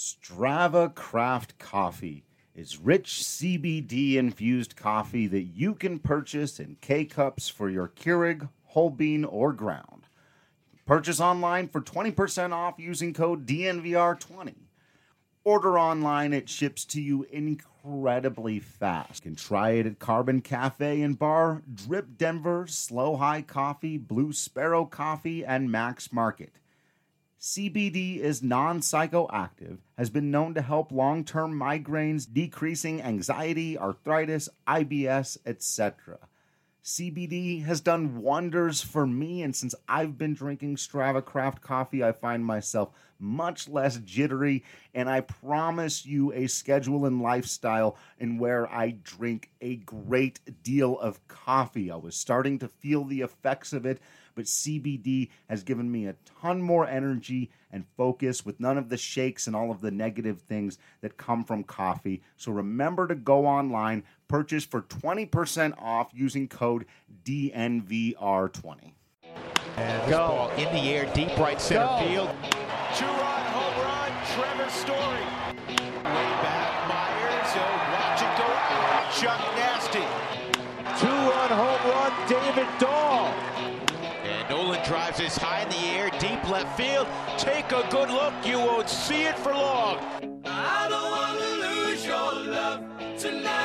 Strava Craft Coffee is rich CBD-infused coffee that you can purchase in K-Cups for your Keurig, whole bean, or ground. Purchase online for 20% off using code DNVR20. Order online, it ships to you incredibly fast. You can try it at Carbon Cafe and Bar, Drip Denver, Slow High Coffee, Blue Sparrow Coffee, and Max Market. CBD is non-psychoactive, has been known to help long-term migraines, decreasing anxiety, arthritis, IBS, etc. CBD has done wonders for me, and since I've been drinking Strava Craft coffee, I find myself much less jittery, and I promise you a schedule and lifestyle in where I drink a great deal of coffee. I was starting to feel the effects of it, but CBD has given me a ton more energy and focus with none of the shakes and all of the negative things that come from coffee. So remember to go online, purchase for 20% off using code DNVR20. And this ball in the air, deep right center field. Two-run home run, Trevor Story. Way back, Myers, watch it go out. Chuck Nasty. Two-run home run, David Dahl. And Nolan drives this high in the air, deep left field. Take a good look, you won't see it for long. I don't want to lose your love tonight.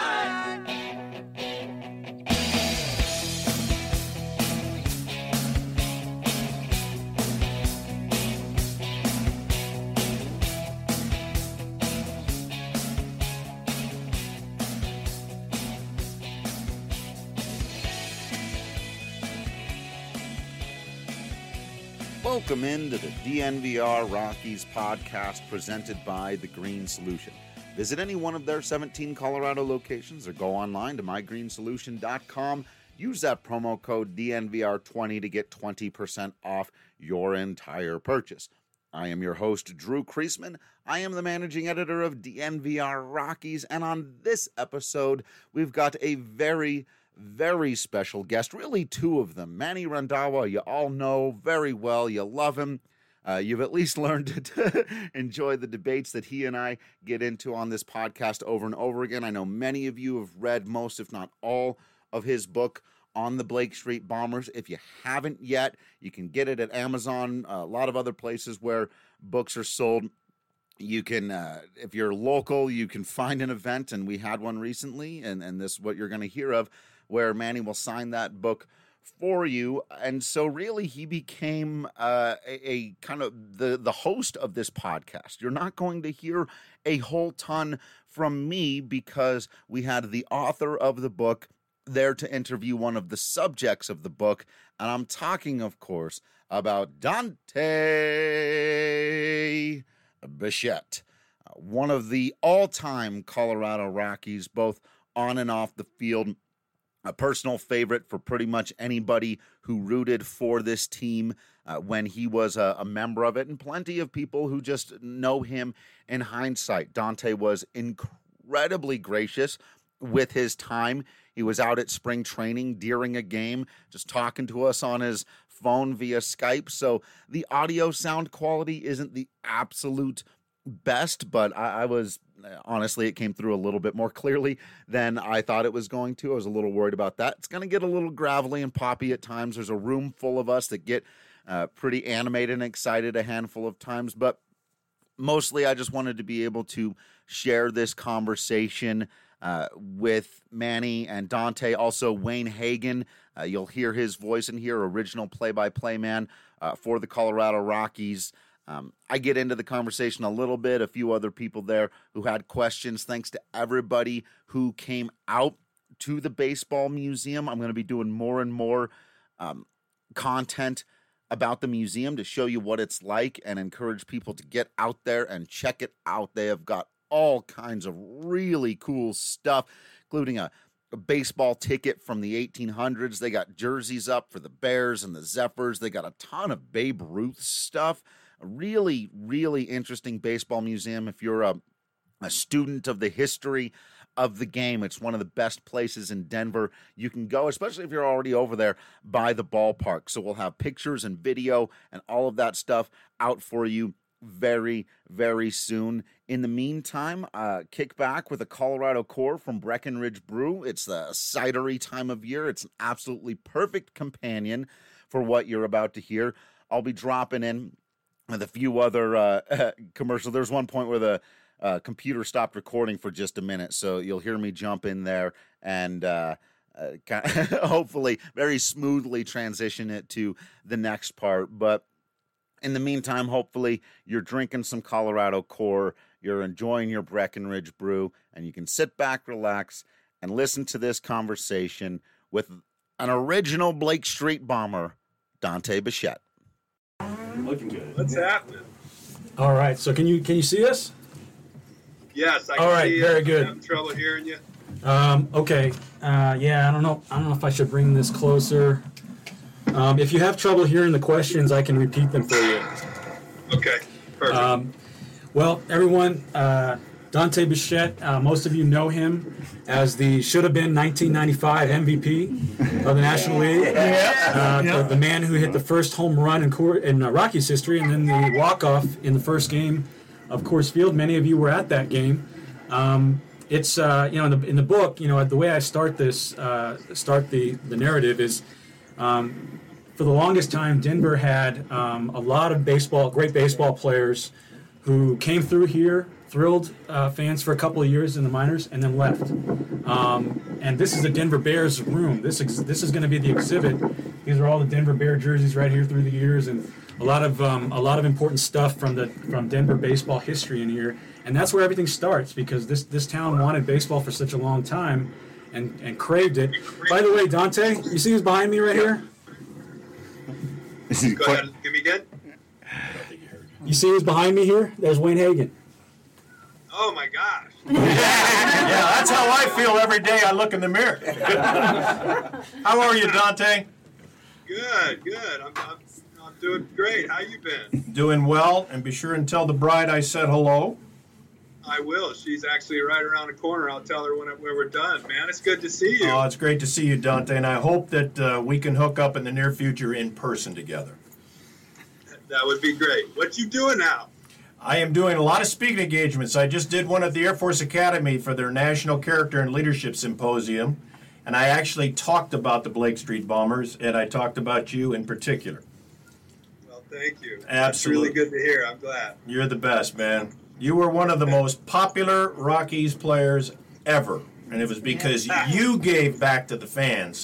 Welcome into the DNVR Rockies podcast presented by The Green Solution. Visit any one of their 17 Colorado locations or go online to mygreensolution.com. Use that promo code DNVR20 to get 20% off your entire purchase. I am your host, Drew Kreisman. I am the managing editor of DNVR Rockies, and on this episode, we've got a very special guest, really two of them. Manny Randhawa, you all know very well. You love him. You've at least learned to enjoy the debates that he and I get into on this podcast over and over again. I know many of you have read most, if not all, of his book on the Blake Street Bombers. If you haven't yet, you can get it at Amazon, a lot of other places where books are sold. You can, if you're local, you can find an event, and we had one recently, and this is what you're going to hear of, where Manny will sign that book for you. And so really he became a kind of the host of this podcast. You're not going to hear a whole ton from me because we had the author of the book there to interview one of the subjects of the book. And I'm talking, of course, about Dante Bichette, one of the all-time Colorado Rockies, both on and off the field. A personal favorite for pretty much anybody who rooted for this team when he was a member of it, and plenty of people who just know him in hindsight. Dante was incredibly gracious with his time. He was out at spring training during a game, just talking to us on his phone via Skype. So the audio sound quality isn't the absolute best, but I was honestly, it came through a little bit more clearly than I thought it was going to. I was a little worried about that. It's going to get a little gravelly and poppy at times. There's a room full of us that get pretty animated and excited a handful of times, but mostly I just wanted to be able to share this conversation with Manny and Dante. Also, Wayne Hagan, you'll hear his voice in here, original play-by-play man for the Colorado Rockies. I get into the conversation a little bit, a few other people there who had questions. Thanks to everybody who came out to the baseball museum. I'm going to be doing more and more content about the museum to show you what it's like and encourage people to get out there and check it out. They have got all kinds of really cool stuff, including a baseball ticket from the 1800s. They got jerseys up for the Bears and the Zephyrs. They got a ton of Babe Ruth stuff. A really interesting baseball museum. If you're a student of the history of the game, it's one of the best places in Denver you can go, especially if you're already over there by the ballpark. So we'll have pictures and video and all of that stuff out for you very, very soon. In the meantime, kick back with a Colorado Core from Breckenridge Brew. It's the cidery time of year. It's an absolutely perfect companion for what you're about to hear. I'll be dropping in with a few other commercials. There's one point where the computer stopped recording for just a minute, so you'll hear me jump in there and hopefully very smoothly transition it to the next part. But in the meantime, hopefully you're drinking some Colorado Core, you're enjoying your Breckenridge Brew, and you can sit back, relax, and listen to this conversation with an original Blake Street Bomber, Dante Bichette. Looking good. What's happening? All right. So can you see us? Yes, I can All right, see you. very good. I'm having trouble hearing you. Okay. Yeah, I don't know if I should bring this closer. If you have trouble hearing the questions, I can repeat them for you. Okay, perfect. Well, everyone, Dante Bichette, most of you know him as the should-have-been 1995 MVP of the National League. The man who hit the first home run in Rockies history, and then the walk-off in the first game of Coors Field. Many of you were at that game. It's in the book, the way I start the narrative is, for the longest time, Denver had a lot of great baseball players who came through here, thrilled fans for a couple of years in the minors, and then left. And this is the Denver Bears room. This is going to be the exhibit. These are all the Denver Bear jerseys right here through the years, and a lot of important stuff from Denver baseball history in here. And that's where everything starts, because this town wanted baseball for such a long time and craved it. By the way, Dante, you see who's behind me right here? Go ahead, give me again. You see who's behind me here? There's Wayne Hagan. Oh my gosh. Yeah, that's how I feel every day I look in the mirror. How are you, Dante? Good. I'm doing great. How you been? Doing well, and be sure and tell the bride I said hello. I will. She's actually right around the corner. I'll tell her when we're done, man. It's good to see you. Oh, it's great to see you, Dante, and I hope that we can hook up in the near future in person together. That would be great. What you doing now? I am doing a lot of speaking engagements. I just did one at the Air Force Academy for their National Character and Leadership Symposium, and I actually talked about the Blake Street Bombers, and I talked about you in particular. Well, thank you. Absolutely. That's really good to hear. I'm glad. You're the best, man. You were one of the most popular Rockies players ever, and it was because you gave back to the fans.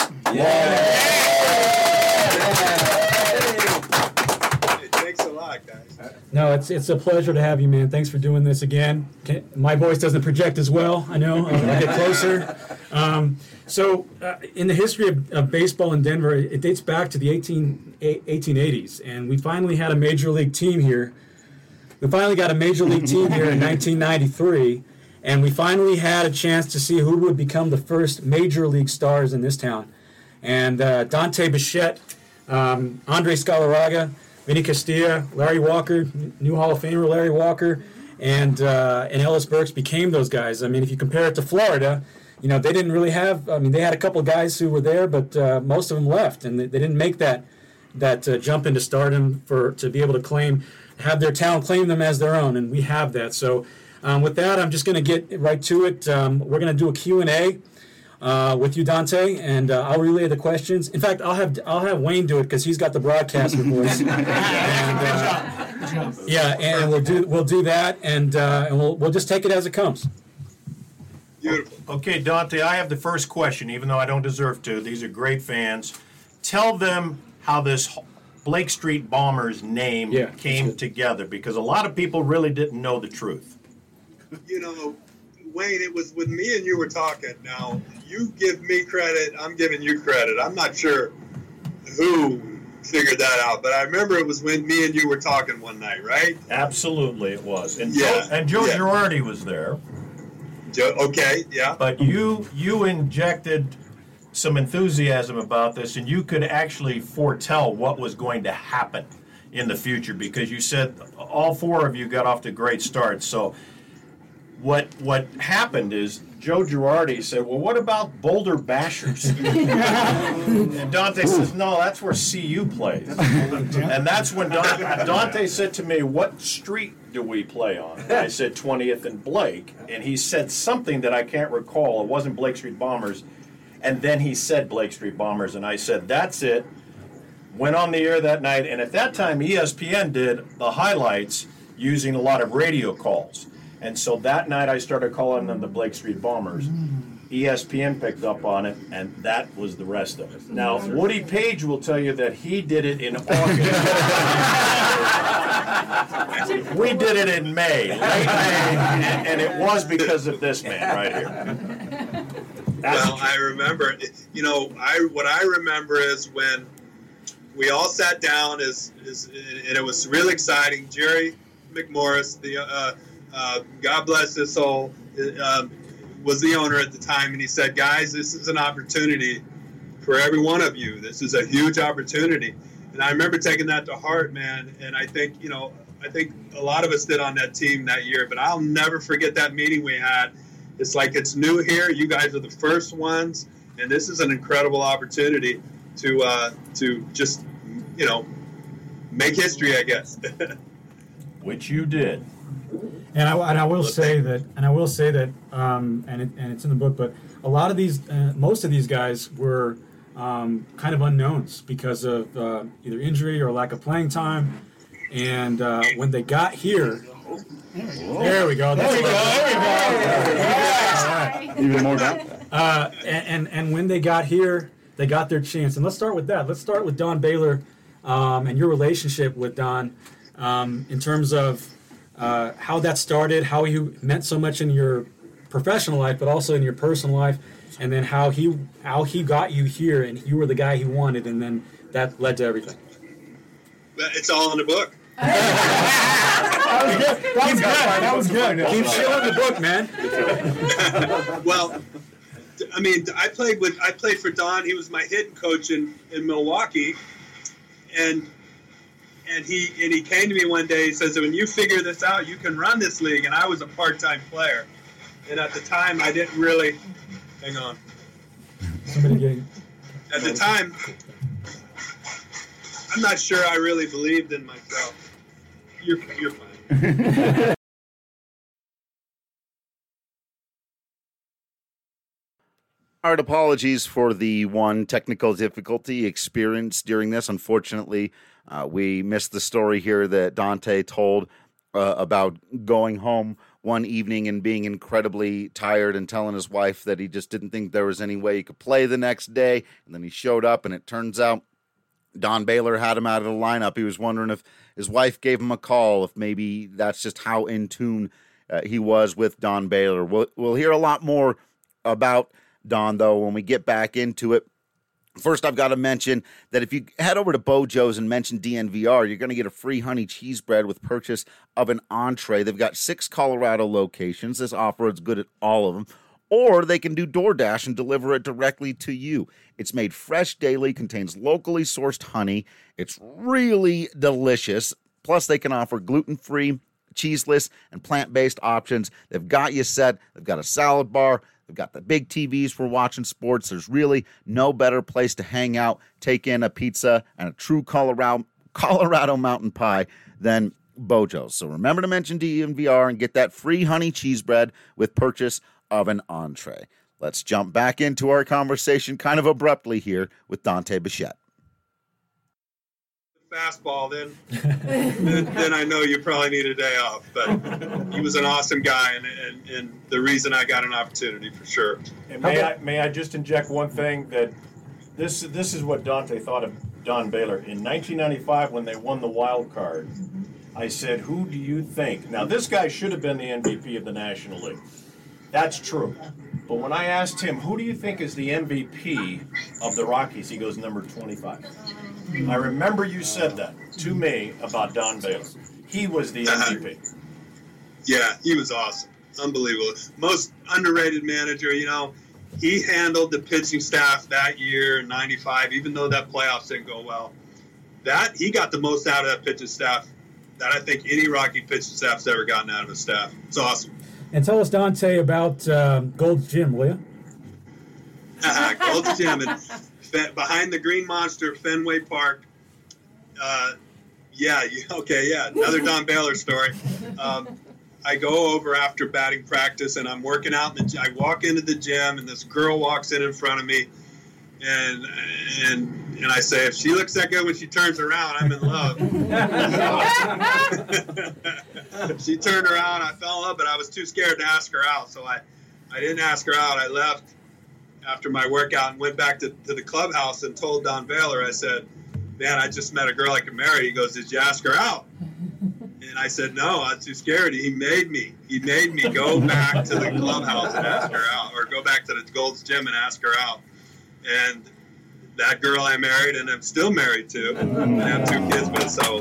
Thanks a lot, guys. No, it's a pleasure to have you, man. Thanks for doing this again. My voice doesn't project as well, I know. I'll get closer. In the history of baseball in Denver, it dates back to the 1880s, and we finally had a major league team here. We finally got a major league team here in 1993, and we finally had a chance to see who would become the first major league stars in this town. And Dante Bichette, Andres Galarraga, Vinny Castilla, Larry Walker, new Hall of Famer Larry Walker, and Ellis Burks became those guys. I mean, if you compare it to Florida, they didn't really have. I mean, they had a couple of guys who were there, but most of them left, and they didn't make that jump into stardom to be able to have their town claim them as their own, and we have that. So with that, I'm just going to get right to it. We're going to do a Q&A with you, Dante, and I'll relay the questions. In fact, I'll have Wayne do it because he's got the broadcaster voice. And we'll do that, and we'll just take it as it comes. Beautiful. Okay, Dante, I have the first question, even though I don't deserve to. These are great fans. Tell them how this Blake Street Bombers name came together, because a lot of people really didn't know the truth. Wayne, it was when me and you were talking. Now, you give me credit, I'm giving you credit. I'm not sure who figured that out, but I remember it was when me and you were talking one night, right? Absolutely, it was. And Joe Girardi was there. Okay, yeah. But you injected some enthusiasm about this, and you could actually foretell what was going to happen in the future, because you said all four of you got off to great starts. So what happened is Joe Girardi said, well, what about Boulder Bashers? And Dante says, no, that's where CU plays. And that's when Dante said to me, what street do we play on? And I said 20th and Blake. And he said something that I can't recall. It wasn't Blake Street Bombers. And then he said Blake Street Bombers. And I said, that's it. Went on the air that night. And at that time, ESPN did the highlights using a lot of radio calls. And so that night I started calling them the Blake Street Bombers. ESPN picked up on it, and that was the rest of it. Now, Woody Page will tell you that he did it in August. We did it in May, late May, and it was because of this man right here. Well, I remember, what I remember is when we all sat down, and it was really exciting. Jerry McMorris, God bless his soul, was the owner at the time, and he said, guys, this is an opportunity for every one of you. This is a huge opportunity. And I remember taking that to heart, man, and I think a lot of us did on that team that year, but I'll never forget that meeting we had. It's like it's new here. You guys are the first ones, and this is an incredible opportunity to just, make history, I guess. Which you did. And I will say that, and it's in the book. But a lot of these, most of these guys were kind of unknowns because of either injury or lack of playing time. And when they got here, there we go. There we go. Even more down. And when they got here, they got their chance. And let's start with that. Let's start with Don Baylor and your relationship with Don in terms of how that started, how he meant so much in your professional life, but also in your personal life, and then how he got you here, and you were the guy he wanted, and then that led to everything. It's all in the book. That was good. Keep showing the book, man. Well, I mean, I played for Don. He was my hitting coach in Milwaukee, and he came to me one day. He says, when you figure this out, you can run this league. And I was a part-time player. And at the time, I didn't really – hang on. At the time, I'm not sure I really believed in myself. You're fine. Our apologies for the one technical difficulty experienced during this. Unfortunately, we missed the story here that Dante told about going home one evening and being incredibly tired and telling his wife that he just didn't think there was any way he could play the next day. And then he showed up, and it turns out Don Baylor had him out of the lineup. He was wondering if his wife gave him a call, if maybe that's just how in tune he was with Don Baylor. We'll hear a lot more about Don, though, when we get back into it. First, I've got to mention that if you head over to Bojo's and mention DNVR, you're going to get a free honey cheese bread with purchase of an entree. They've got 6 Colorado locations. This offer is good at all of them. Or they can do DoorDash and deliver it directly to you. It's made fresh daily, contains locally sourced honey. It's really delicious. Plus, they can offer gluten-free, cheeseless, and plant-based options. They've got you set. They've got a salad bar. They've got the big TVs for watching sports. There's really no better place to hang out, take in a pizza, and a true Colorado mountain pie than Bojo's. So remember to mention DNVR and get that free honey cheese bread with purchase of an entree. Let's jump back into our conversation kind of abruptly here with Dante Bichette. Fastball, then I know you probably need a day off. But he was an awesome guy, and the reason I got an opportunity for sure. And may I just inject one thing, that this is what Dante thought of Don Baylor in 1995 when they won the wild card. I said, "Who do you think?" Now this guy should have been the MVP of the National League. That's true. But when I asked him, "Who do you think is the MVP of the Rockies?" he goes, "Number 25. I remember you said that to me about Don Baylor. He was the MVP. Yeah, he was awesome. Unbelievable. Most underrated manager, He handled the pitching staff that year in 95, even though that playoffs didn't go well. He got the most out of that pitching staff that I think any Rocky pitching staff's ever gotten out of a staff. It's awesome. And tell us, Dante, about Gold's Gym, will you? Gold's Gym, and behind the Green Monster, Fenway Park. Another Don Baylor story. I go over after batting practice, and I'm working out. I walk into the gym, and this girl walks in front of me, and I say, if she looks that good when she turns around, I'm in love. She turned around, I fell in love, but I was too scared to ask her out, so I didn't ask her out. I left after my workout and went back to the clubhouse and told Don Baylor, I said, man, I just met a girl I could marry. He goes, did you ask her out? And I said, no, I was too scared. He made me go back to the clubhouse and ask her out, or go back to the Gold's Gym and ask her out. And that girl I married, and I'm still married to, and I have 2 kids with. So,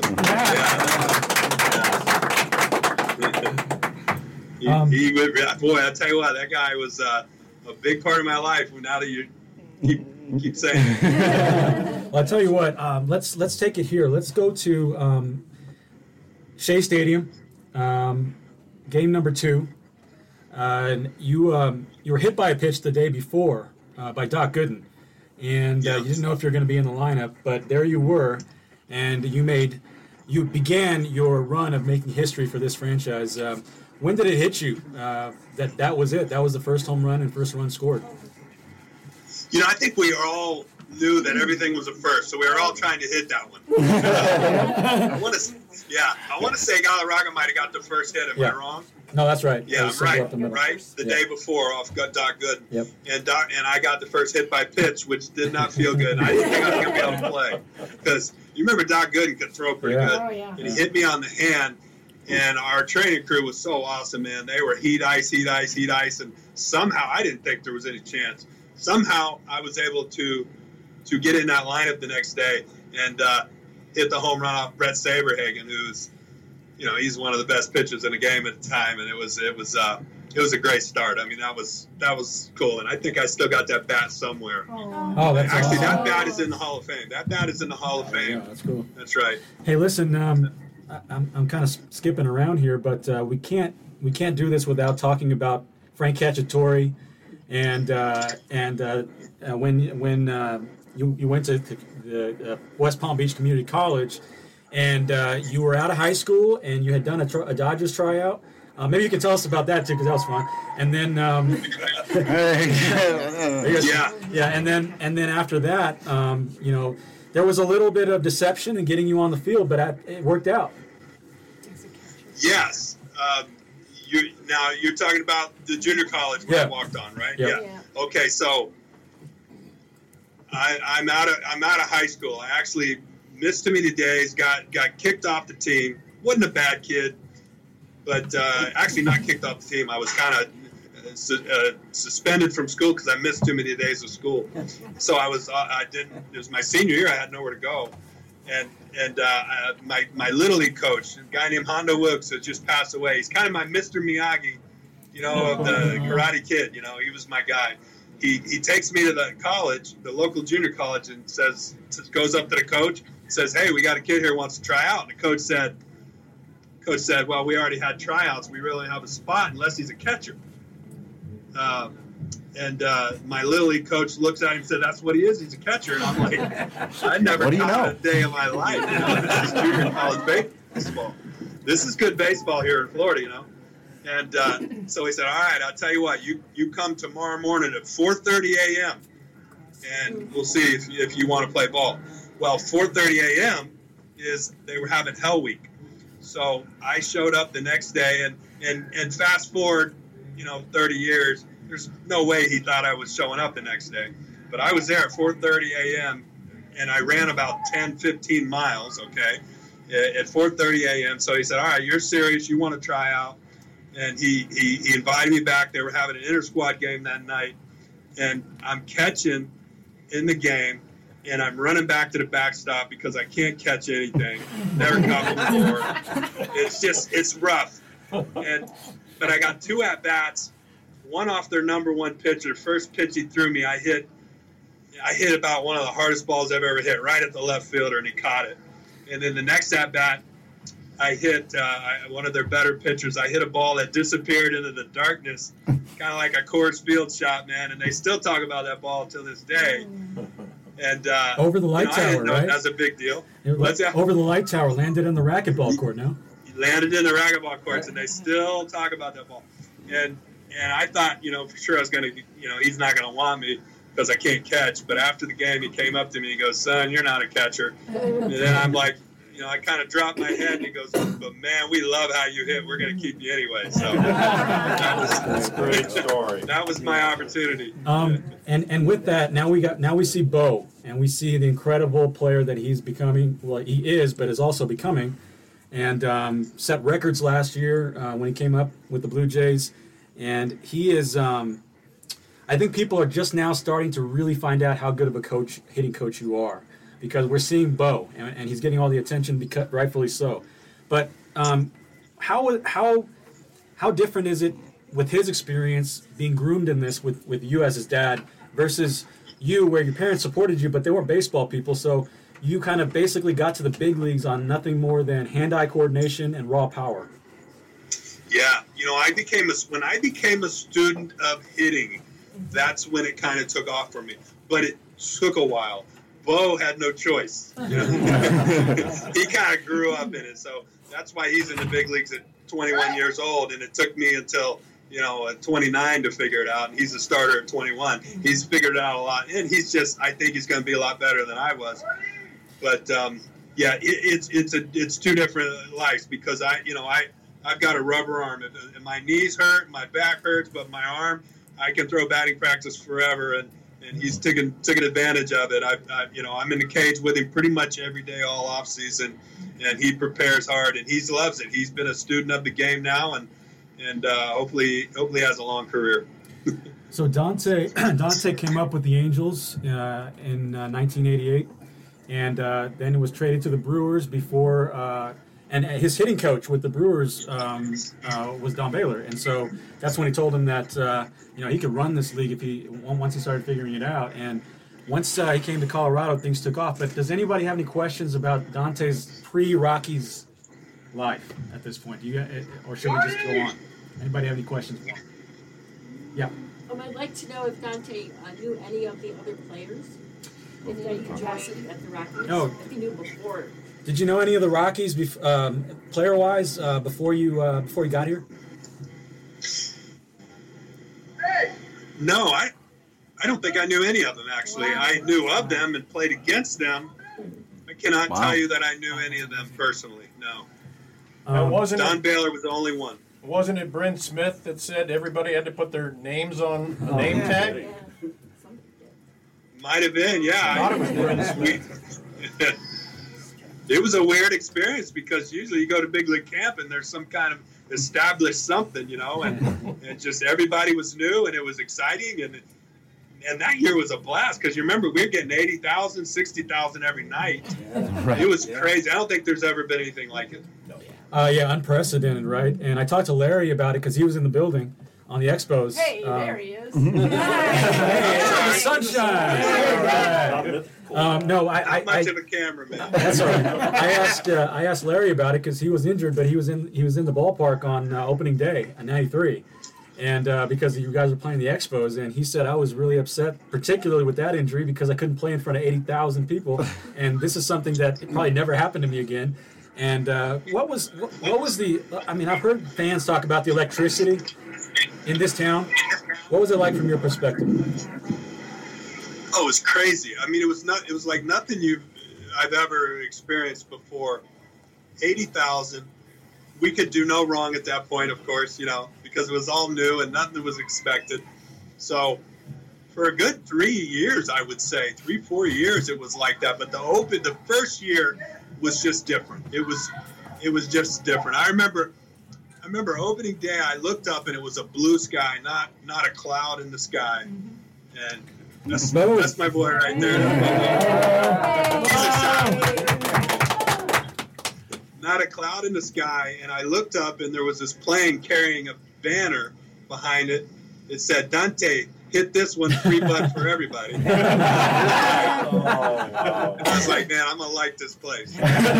boy, I tell you what, that guy was a big part of my life. Now that you keep saying it. Well, I tell you what, let's take it here. Let's go to Shea Stadium, game number 2. You were hit by a pitch the day before by Doc Gooden, and you didn't know if you were going to be in the lineup, but there you were, and you began your run of making history for this franchise. When did it hit you that was it? That was the first home run and first run scored? I think we all knew that everything was a first, so we were all trying to hit that one. I want to say Galarraga might have got the first hit. Am I wrong? No, that's right. Yeah, right. The day before off Doc Gooden. Yep. And I got the first hit by pitch, which did not feel good. I didn't think I was going to be able to play because you remember Doc Gooden could throw pretty good. Oh, yeah. And he hit me on the hand, and our training crew was so awesome, man. They were heat ice, and somehow I didn't think there was any chance. Somehow I was able to get in that lineup the next day and hit the home run off Brett Saberhagen, who's, he's one of the best pitchers in the game at the time, and it was a great start. I mean, that was cool, and I think I still got that bat somewhere. Oh, that's actually awesome. That bat is in the Hall of Fame. That bat is in the Hall of Fame. Yeah, that's cool. That's right. Hey, listen, I'm kind of skipping around here, but we can't do this without talking about Frank Cacciatore, and when you went to the West Palm Beach Community College, and you were out of high school, and you had done a Dodgers tryout. Maybe you can tell us about that too, because that was fun. And then, and then after that, there was a little bit of deception in getting you on the field, but it worked out. Yes. You're talking about the junior college where I walked on, right? Yeah. Okay, so I'm out of high school. I actually missed too many days, got kicked off the team. Wasn't a bad kid, but actually not kicked off the team. I was kind of suspended from school because I missed too many days of school. So it was my senior year. I had nowhere to go, and my Little League coach, a guy named Hondo Wilkes, who just passed away. He's kind of my Mr. Miyagi, of the Karate Kid. He was my guy. He takes me to the college, the local junior college, and goes up to the coach, says, "Hey, we got a kid here who wants to try out." And the coach said, "Well, we already had tryouts. We really don't have a spot unless he's a catcher." My Little League coach looks at him and said, "That's what he is. He's a catcher." And I'm like, I never caught a day in my life. This is junior college baseball. This is good baseball here in Florida, And so he said, "All right, I'll tell you what. You come tomorrow morning at 4:30 a.m. and we'll see if you want to play ball." Well, 4:30 a.m. they were having Hell Week, so I showed up the next day, and fast forward, 30 years. There's no way he thought I was showing up the next day, but I was there at 4:30 a.m. and I ran about 10-15 miles. Okay, at 4:30 a.m. So he said, "All right, you're serious. You want to try out?" And he invited me back. They were having an inter-squad game that night, and I'm catching in the game, and I'm running back to the backstop because I can't catch anything. Never caught before. It's rough. But I got 2 at-bats, one off their number 1 pitcher. First pitch he threw me, I hit about one of the hardest balls I've ever hit, right at the left fielder, and he caught it. And then the next at-bat, I hit one of their better pitchers. I hit a ball that disappeared into the darkness, kind of like a Coors Field shot, man. And they still talk about that ball to this day. And over the light tower, I didn't know right? That's a big deal. Over the light tower, landed in the racquetball court. No, he landed in the racquetball courts, and they still talk about that ball. And I thought, for sure I was going to, he's not going to want me because I can't catch. But after the game, he came up to me and he goes, "Son, you're not a catcher." And then I'm like, I kind of dropped my head, and he goes, "But man, we love how you hit. We're going to keep you anyway." So that's a great story. That was my opportunity. And with that, now we see Bo, and we see the incredible player that he's becoming. Well, he is, but is also becoming, and set records last year when he came up with the Blue Jays, and he is. I think people are just now starting to really find out how good of a hitting coach you are. Because we're seeing Bo, and he's getting all the attention, because rightfully so. But how different is it with his experience being groomed in this with you as his dad versus you, where your parents supported you, but they weren't baseball people, so you kind of basically got to the big leagues on nothing more than hand-eye coordination and raw power. Yeah, when I became a student of hitting, that's when it kind of took off for me. But it took a while. Bo had no choice. He kind of grew up in it, so that's why he's in the big leagues at 21 years old, and it took me until at 29 to figure it out. And he's a starter at 21. He's figured it out a lot, and I think he's going to be a lot better than I was. But it's two different lives because I've got a rubber arm. And my knees hurt, my back hurts, but my arm, I can throw batting practice forever, and he's taken advantage of it. I'm in the cage with him pretty much every day all off season, and he prepares hard, and he loves it. He's been a student of the game now, and hopefully has a long career. So Dante came up with the Angels in 1988, and then was traded to the Brewers before. And his hitting coach with the Brewers was Don Baylor, and so that's when he told him that he could run this league once he started figuring it out. And once he came to Colorado, things took off. But does anybody have any questions about Dante's pre-Rockies life at this point? Or should we just go on? Anybody have any questions? Yeah. I'd like to know if Dante knew any of the other players in any capacity at the Rockies. No. If he knew before. Did you know any of the Rockies, player-wise, before you got here? No, I don't think I knew any of them, actually. Wow. I knew of them and played against them. I cannot tell you that I knew any of them personally, no. Don Baylor was the only one. Wasn't it Bryn Smith that said everybody had to put their names on a name tag? Yeah. Might have been, yeah. I thought it was Bryn Smith. It was a weird experience because usually you go to big league camp and there's some kind of established something, and just everybody was new and it was exciting, and that year was a blast because you remember we were getting 80,000, 60,000 every night. Right. It was crazy. I don't think there's ever been anything like it. Unprecedented, right? And I talked to Larry about it because he was in the building on the Expos. Hey, there he is. Hey, sunshine. No, Not much of a cameraman. That's all right. I asked Larry about it because he was injured, but he was in the ballpark on opening day in '93, and because you guys were playing the Expos, and he said I was really upset, particularly with that injury, because I couldn't play in front of 80,000 people, and this is something that probably never happened to me again. And what was the? I mean, I've heard fans talk about the electricity in this town. What was it like from your perspective? Oh, it was crazy. I mean, it was like nothing I've ever experienced before. 80,000. We could do no wrong at that point, of course, because it was all new and nothing was expected. So for a good 3 years, I would say, 3-4 years, it was like that. But the first year was just different. It was just different. I remember opening day, I looked up and it was a blue sky, not a cloud in the sky. And that's my boy right there. Not a cloud in the sky. And I looked up and there was this plane carrying a banner behind it. It said, Dante, hit this one $3 for everybody. I was like, man, I'm gonna like this place.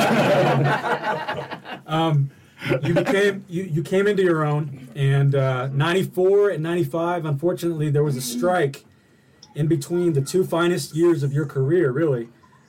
You came into your own, and 94 and 95, unfortunately, there was a strike in between the two finest years of your career, really.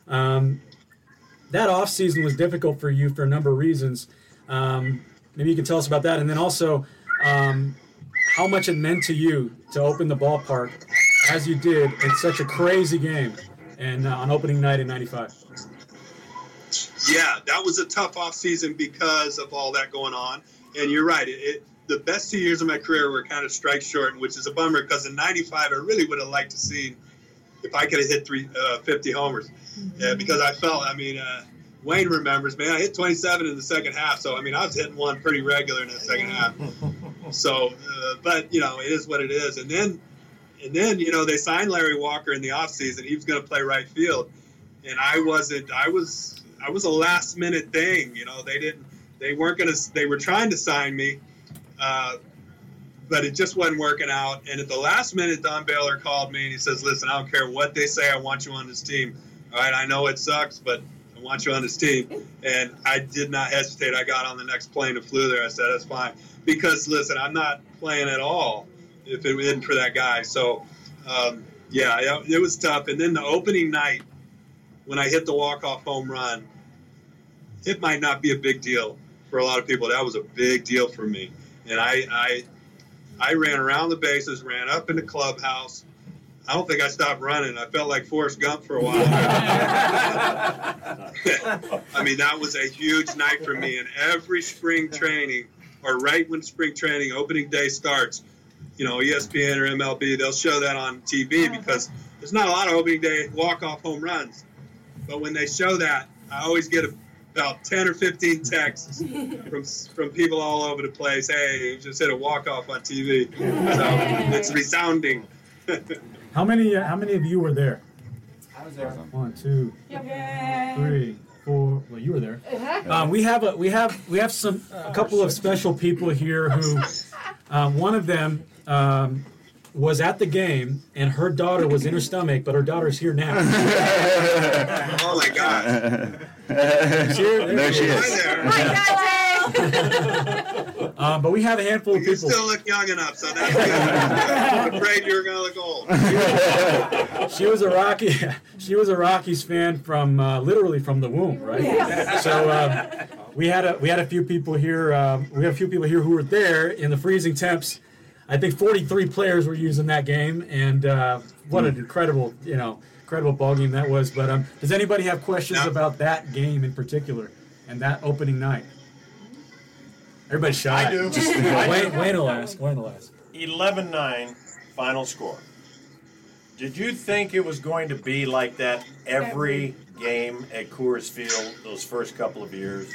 That offseason was difficult for you for a number of reasons. Maybe you can tell us about that, and then also how much it meant to you to open the ballpark as you did in such a crazy game and on opening night in 95. Yeah, that was a tough off season because of all that going on. And you're right. The best 2 years of my career were kind of strike short, which is a bummer because in 95, I really would have liked to see if I could have hit 50 homers. Yeah, because I felt, Wayne remembers, man, I hit 27 in the second half. So, I was hitting one pretty regular in the second half. So, but, it is what it is. And then, they signed Larry Walker in the offseason. He was going to play right field. And I was a last minute thing. They were trying to sign me, but it just wasn't working out. And at the last minute, Don Baylor called me and he says, listen, I don't care what they say. I want you on this team. All right. I know it sucks, but I want you on this team. And I did not hesitate. I got on the next plane and flew there. I said, that's fine. Because listen, I'm not playing at all if it wasn't for that guy. So, it was tough. And then the opening night, when I hit the walk-off home run, it might not be a big deal for a lot of people. That was a big deal for me. And I ran around the bases, ran up in the clubhouse. I don't think I stopped running. I felt like Forrest Gump for a while. That was a huge night for me. And every spring training, or right when spring training, opening day starts, ESPN or MLB, they'll show that on TV because there's not a lot of opening day walk-off home runs. But when they show that, I always get about 10 or 15 texts from people all over the place. Hey, you just hit a walk-off on TV. So it's resounding. How many of you were there? I was there. 1, 2, 3, 4. Well, you were there. We have a couple of special people here who, one of them was at the game, and her daughter was in her stomach, but her daughter's here now. Oh my God! There she is. Hi there. But we have a handful of people. You still look young enough, so that's good. I'm afraid you're gonna look old. She was a Rockies fan from literally from the womb, right? Yeah. So we had a few people here. We have a few people here who were there in the freezing temps. I think 43 players were using that game, and what an incredible ball game that was. But does anybody have questions about that game in particular and that opening night? Everybody's shy. I do. Wayne will ask. 11-9 final score. Did you think it was going to be like that every game at Coors Field those first couple of years?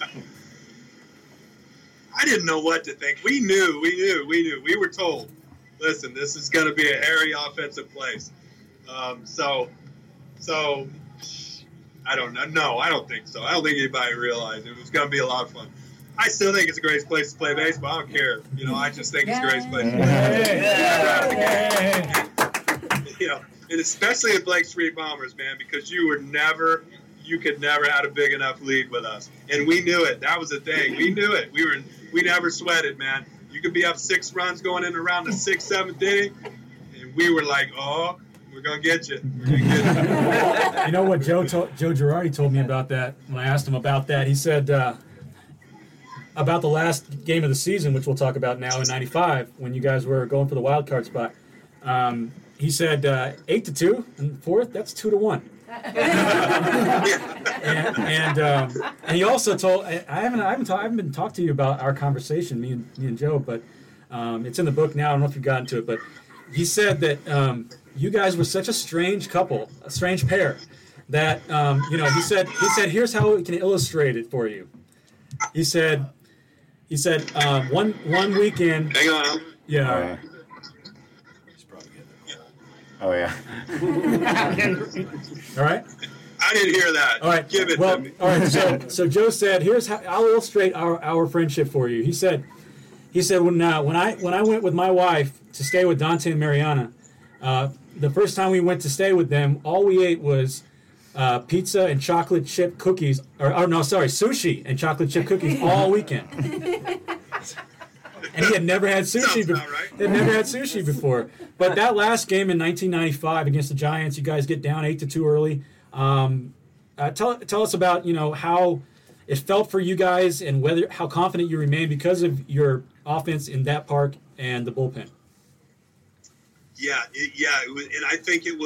I didn't know what to think. We knew. We were told, listen, this is going to be a hairy offensive place. So I don't know. No, I don't think so. I don't think anybody realized it was going to be a lot of fun. I still think it's a great place to play baseball. I don't care. I just think it's a great place to play. And especially at Blake Street Bombers, man, because you could never have a big enough lead with us. And we knew it. That was the thing. We knew it. We never sweated, man. You could be up 6 runs going in around the 6th, 7th inning, and we were like, oh, we're going to get you. You know what Joe Girardi told me about that when I asked him about that? He said about the last game of the season, which we'll talk about now in 95, when you guys were going for the wild card spot. He said 8-2 and fourth, that's 2-1. and he also told I haven't been talked to you about our conversation, me and Joe, but it's in the book now. I don't know if you've gotten to it, but he said that you guys were such a strange couple, a strange pair, that he said here's how we can illustrate it for you. He said one weekend. Hang on. Yeah. Oh, yeah. All right. I didn't hear that. All right. Give it to me. All right. So Joe said, "Here's how I'll illustrate our friendship for you." He said when I went with my wife to stay with Dante and Mariana, The first time we went to stay with them, all we ate was pizza and chocolate chip cookies. Sushi and chocolate chip cookies all weekend. And he had never had sushi before. Right. He had never had sushi before. But that last game in 1995 against the Giants, you guys get down 8-2 early. Tell us about how it felt for you guys and how confident you remain because of your offense in that park and the bullpen. Yeah, and I think you're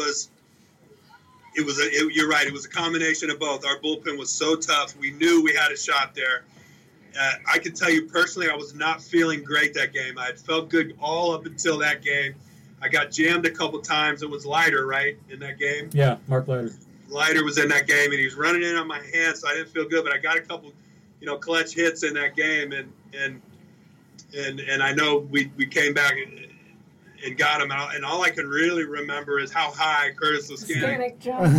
right. It was a combination of both. Our bullpen was so tough. We knew we had a shot there. I can tell you personally, I was not feeling great that game. I had felt good all up until that game. I got jammed a couple times. It was Leiter, right, in that game? Yeah, Mark Leiter. Leiter was in that game, and he was running in on my hands, so I didn't feel good. But I got a couple, clutch hits in that game, and I know we came back and got him out. And all I can really remember is how high Curtis Leskanic jumped.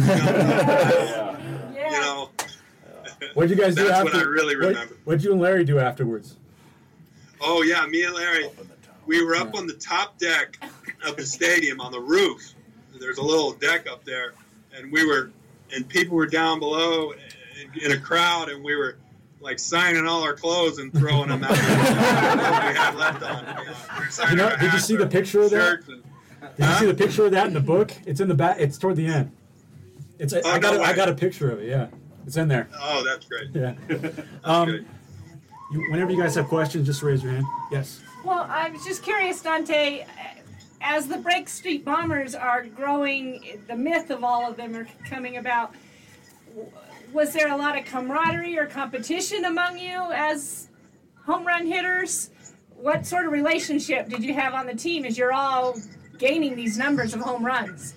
What did you guys do That's after? what I really remember. What did you and Larry do afterwards? Oh, yeah, me and Larry, we were up on the top deck of the stadium on the roof. There's a little deck up there, and people were down below in a crowd, and we were like signing all our clothes and throwing them out. We had left on. Did you see the picture of that? Did you see the picture of that in the book? It's in the back. It's toward the end. I got a picture of it. Yeah, it's in there. Oh, that's great. Yeah. That's great. Whenever you guys have questions, just raise your hand. Yes. Well, I was just curious, Dante. As the Break Street Bombers are growing, the myth of all of them are coming about. Was there a lot of camaraderie or competition among you as home run hitters? What sort of relationship did you have on the team as you're all gaining these numbers of home runs?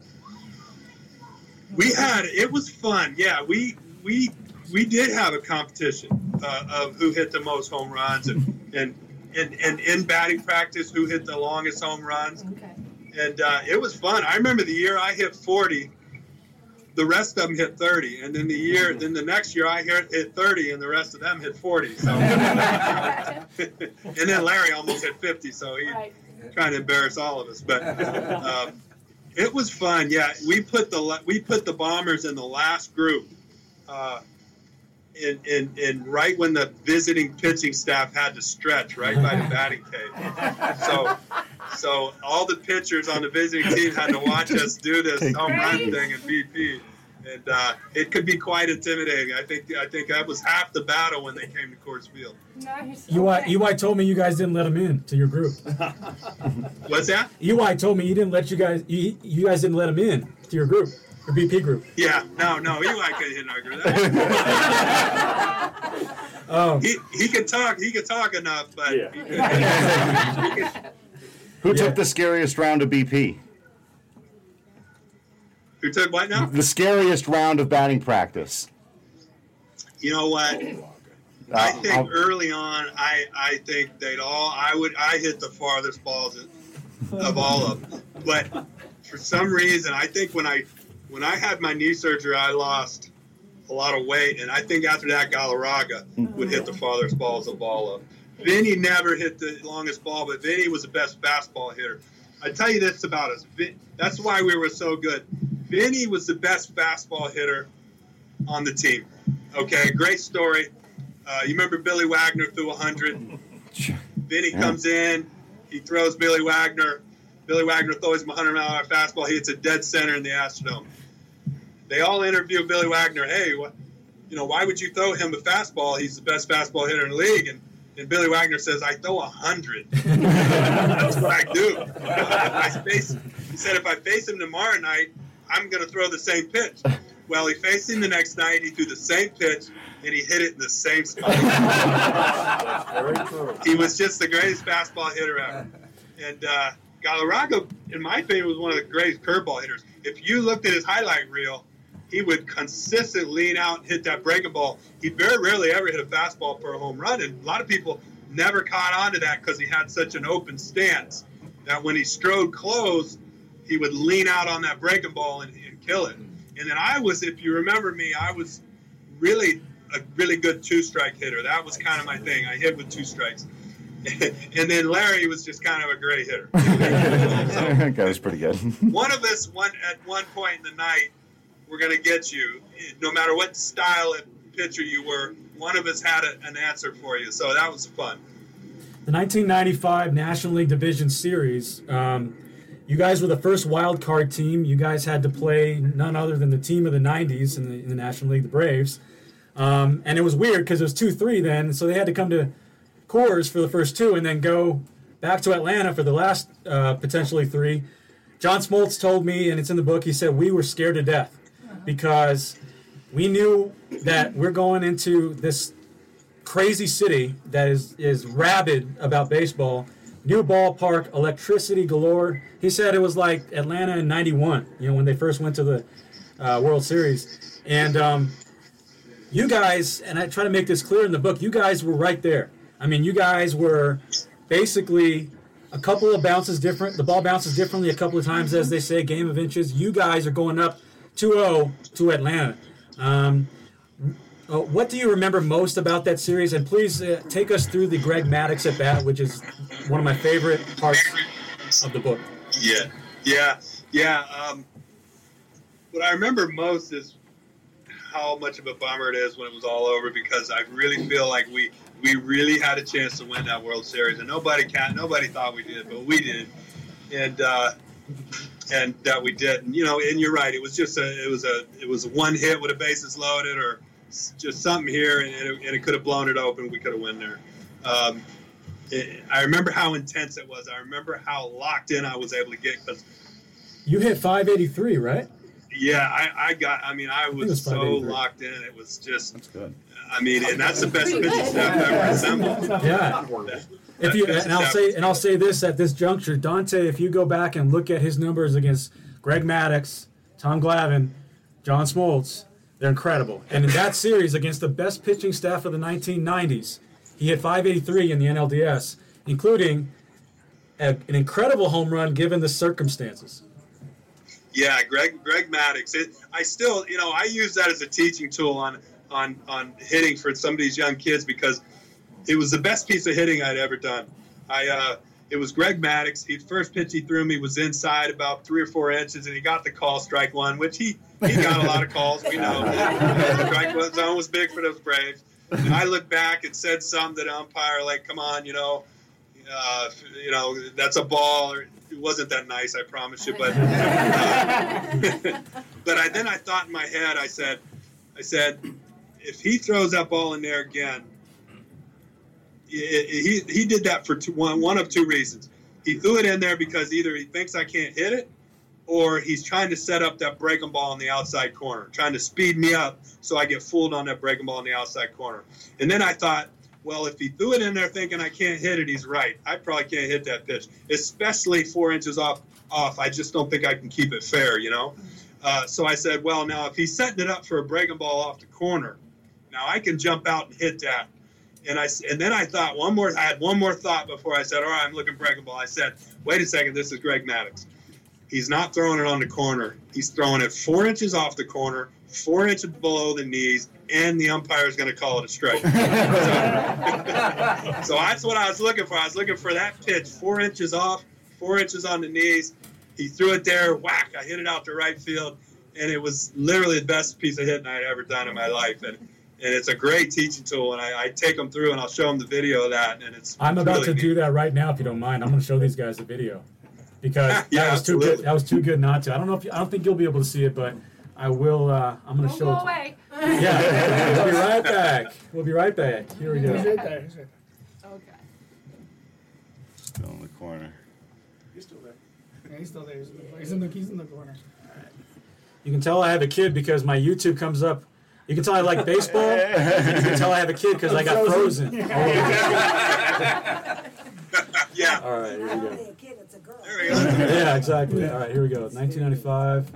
It was fun. Yeah, we did have a competition of who hit the most home runs and in batting practice who hit the longest home runs. Okay. And it was fun. I remember the year I hit 40. The rest of them hit 30, and then the next year I hit 30, and the rest of them hit 40. So, and then Larry almost hit 50, so he's trying to embarrass all of us. But it was fun. Yeah, we put the Bombers in the last group, in right when the visiting pitching staff had to stretch right by the batting cage. So all the pitchers on the visiting team had to watch us do this home run thing in BP, and it could be quite intimidating. I think that was half the battle when they came to Coors Field. Nice. UI told me you guys didn't let him in to your group. What's that? UI told me you guys didn't let him in to your group, your BP group. Yeah, no, UI couldn't hit our group. He could talk enough, but Who took the scariest round of BP? Who took what now? The scariest round of batting practice. You know what? I think early on, I think I hit the farthest balls of all of them. But for some reason, I think when I had my knee surgery, I lost a lot of weight, and I think after that, Galarraga would hit the farthest balls of all of them. Vinny never hit the longest ball, but Vinny was the best fastball hitter. I tell you this about us. That's why we were so good. Vinny was the best fastball hitter on the team. Okay, great story. You remember Billy Wagner threw 100. Vinny comes in. He throws Billy Wagner. Billy Wagner throws him a 100-mile-an-hour fastball. He hits a dead center in the Astrodome. They all interview Billy Wagner. Hey, why would you throw him a fastball? He's the best fastball hitter in the league. And Billy Wagner says, I throw 100. That's what I do. He said, if I face him tomorrow night, I'm going to throw the same pitch. Well, he faced him the next night. He threw the same pitch, and he hit it in the same spot. Very true. He was just the greatest fastball hitter ever. And Galarraga, in my opinion, was one of the greatest curveball hitters. If you looked at his highlight reel, he would consistently lean out and hit that breaking ball. He very rarely ever hit a fastball for a home run, and a lot of people never caught on to that because he had such an open stance that when he strode close, he would lean out on that breaking ball and kill it. And then if you remember me, I was a really good two-strike hitter. That was kind of my thing. I hit with two strikes. And then Larry was just kind of a great hitter. That guy was pretty good. One of us, at one point in the night, we're going to get you. No matter what style of pitcher you were, one of us had an answer for you. So that was fun. The 1995 National League Division Series, you guys were the first wild card team. You guys had to play none other than the team of the 90s in the National League, the Braves. And it was weird because it was 2-3 then, so they had to come to Coors for the first two and then go back to Atlanta for the last potentially 3. John Smoltz told me, and it's in the book, he said, we were scared to death because we knew that we're going into this crazy city that is rabid about baseball. New ballpark, electricity galore. He said it was like Atlanta in '91, when they first went to the World Series. And you guys, and I try to make this clear in the book, you guys were right there. I mean, you guys were basically a couple of bounces different. The ball bounces differently a couple of times, as they say, game of inches. You guys are going up 2-0 to Atlanta. What do you remember most about that series? And please take us through the Greg Maddux at bat, which is one of my favorite parts of the book. Yeah. What I remember most is how much of a bummer it is when it was all over, because I really feel like we really had a chance to win that World Series, and nobody thought we did, but we did, and that we did. And and you're right. It was just it was a one hit with a bases loaded, or just something here, and it could have blown it open. We could have won there. I remember how intense it was. I remember how locked in I was able to get, because you hit 583, right? Yeah, I was so locked in. It was just. That's good. I mean, and that's the best pitching staff I've ever assembled. Yeah. I'll say this at this juncture, Dante. If you go back and look at his numbers against Greg Maddux, Tom Glavine, John Smoltz, they're incredible. And in that series against the best pitching staff of the 1990s, he hit 583 in the NLDS, including an incredible home run given the circumstances. Yeah, Greg Maddux. I still, I use that as a teaching tool on hitting for some of these young kids, because it was the best piece of hitting I'd ever done. It was Greg Maddux. The first pitch he threw me was inside about 3 or 4 inches, and he got the call, strike one, which he got a lot of calls. We know. Strike zone was big for those Braves. And I looked back and said something to the umpire, like, "Come on, that's a ball." Or, it wasn't that nice, I promise you. But then I thought in my head, I said, if he throws that ball in there again, he did that for one of 2 reasons. He threw it in there because either he thinks I can't hit it, or he's trying to set up that breaking ball in the outside corner, trying to speed me up so I get fooled on that breaking ball in the outside corner. And then I thought, well, if he threw it in there thinking I can't hit it, he's right. I probably can't hit that pitch, especially 4 inches off. I just don't think I can keep it fair, So I said, well, now if he's setting it up for a breaking ball off the corner, now I can jump out and hit that. And then I thought I had one more thought before I said, all right, I'm looking breaking ball. I said, wait a second, this is Greg Maddux. He's not throwing it on the corner. He's throwing it 4 inches off the corner, 4 inches below the knees, and the umpire is going to call it a strike. So that's what I was looking for. I was looking for that pitch, 4 inches off, 4 inches on the knees. He threw it there, whack, I hit it out to right field, and it was literally the best piece of hitting I'd ever done in my life. And it's a great teaching tool, and I take them through, and I'll show them the video of that. And I'm about to do that right now, if you don't mind. I'm going to show these guys the video, because that was too good. That was too good not to. I don't think you'll be able to see it, but I will. I'm going to show it. Away. Yeah, we'll be right back. We'll be right back. Here we go. Okay. Still in the corner. He's still there. Yeah, he's still there. He's in the corner. All right. You can tell I have a kid because my YouTube comes up. You can tell I like baseball. You can tell I have a kid because I got frozen. Yeah. All right, here we go. A kid, it's a girl. There we go. Yeah, exactly. All right, here we go. 1995.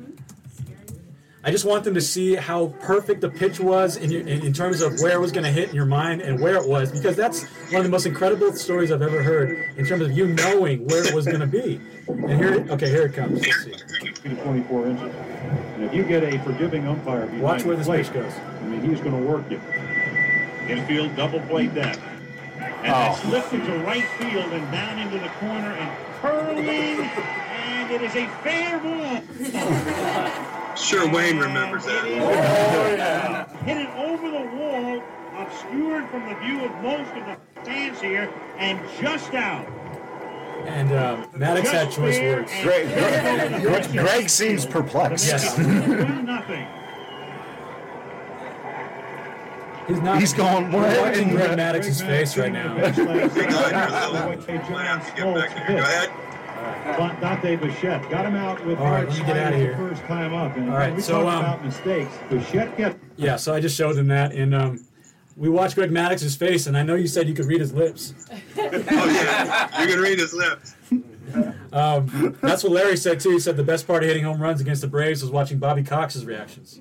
I just want them to see how perfect the pitch was in terms of where it was going to hit in your mind and where it was, because that's one of the most incredible stories I've ever heard in terms of you knowing where it was going to be. And here it comes. Let's see. 24 inches. And if you get a forgiving umpire behind watch where this plate, pitch goes. I mean, he's going to work you. Infield double played that. That's lifted to right field and down into the corner and curling, and it is a fair ball. Sure, Wayne remembers that. Hit it over the wall, obscured from the view of most of the fans here, and just out. And Maddox had choice words. Greg seems perplexed. Yes. 1-0. He's going. We're watching Greg Maddox's face right now. Might have to get back here. Go ahead. Dante Bichette got him out with all right, let me get out of here. The first time up. And all right, we so talked about mistakes. Bichette kept. Yeah, so I just showed him that, and we watched Greg Maddox's face, and I know you said you could read his lips. Oh yeah, you can read his lips. That's what Larry said too. He said the best part of hitting home runs against the Braves was watching Bobby Cox's reactions.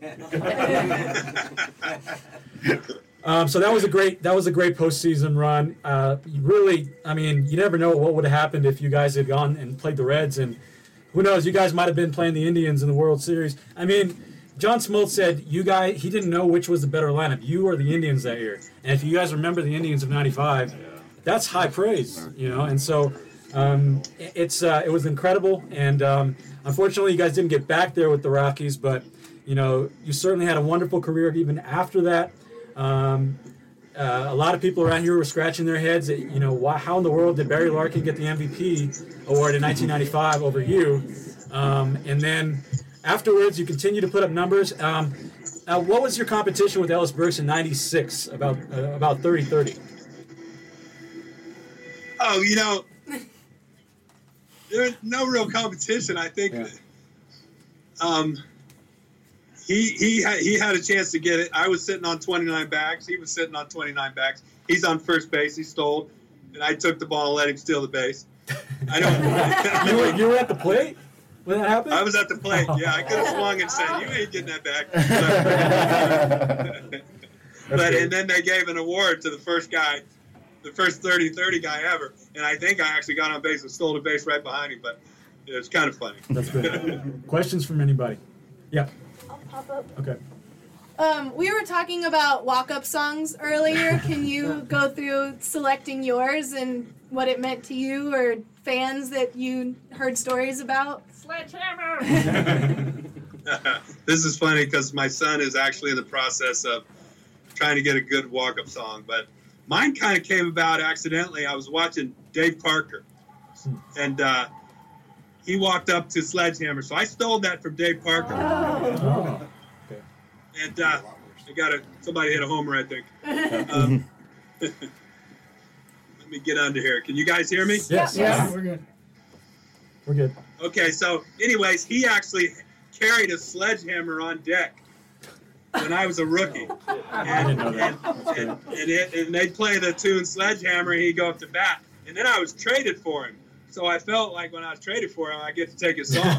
So that was a great postseason run. Really, I mean, you never know what would have happened if you guys had gone and played the Reds, and who knows, you guys might have been playing the Indians in the World Series. I mean, John Smoltz said he didn't know which was the better lineup, you or the Indians that year. And if you guys remember the Indians of '95, that's high praise, And so it was incredible. And unfortunately, you guys didn't get back there with the Rockies, but you certainly had a wonderful career even after that. A lot of people around here were scratching their heads at, how in the world did Barry Larkin get the MVP award in 1995 over you? And then afterwards, you continue to put up numbers. What was your competition with Ellis Burks in '96? About 30-30. Oh, there's no real competition. I think he had a chance to get it. I was sitting on 29 bags. He was sitting on 29 bags. He's on first base. He stole, and I took the ball and let him steal the base. I don't. You were at the plate when that happened? I was at the plate. Yeah, I could have swung and said, "You ain't getting that back." And then they gave an award to the first guy, the first 30-30 guy ever. And I think I actually got on base and stole the base right behind him. But it was kind of funny. That's good. Questions from anybody? Yeah. I'll pop up. Okay. We were talking about walk-up songs earlier. Can you go through selecting yours and what it meant to you or fans that you heard stories about? Sledgehammer! This is funny because my son is actually in the process of trying to get a good walk-up song. But mine kind of came about accidentally. I was watching Dave Parker, and he walked up to Sledgehammer. So I stole that from Dave Parker. Oh. And somebody hit a homer, I think. Let me get under here. Can you guys hear me? Yes. Yeah, we're good. We're good. Okay, so anyways, he actually carried a sledgehammer on deck when I was a rookie. I didn't know that. And they'd play the tune Sledgehammer, and he'd go up to bat. And then I was traded for him. So I felt like when I was traded for him, I get to take his song.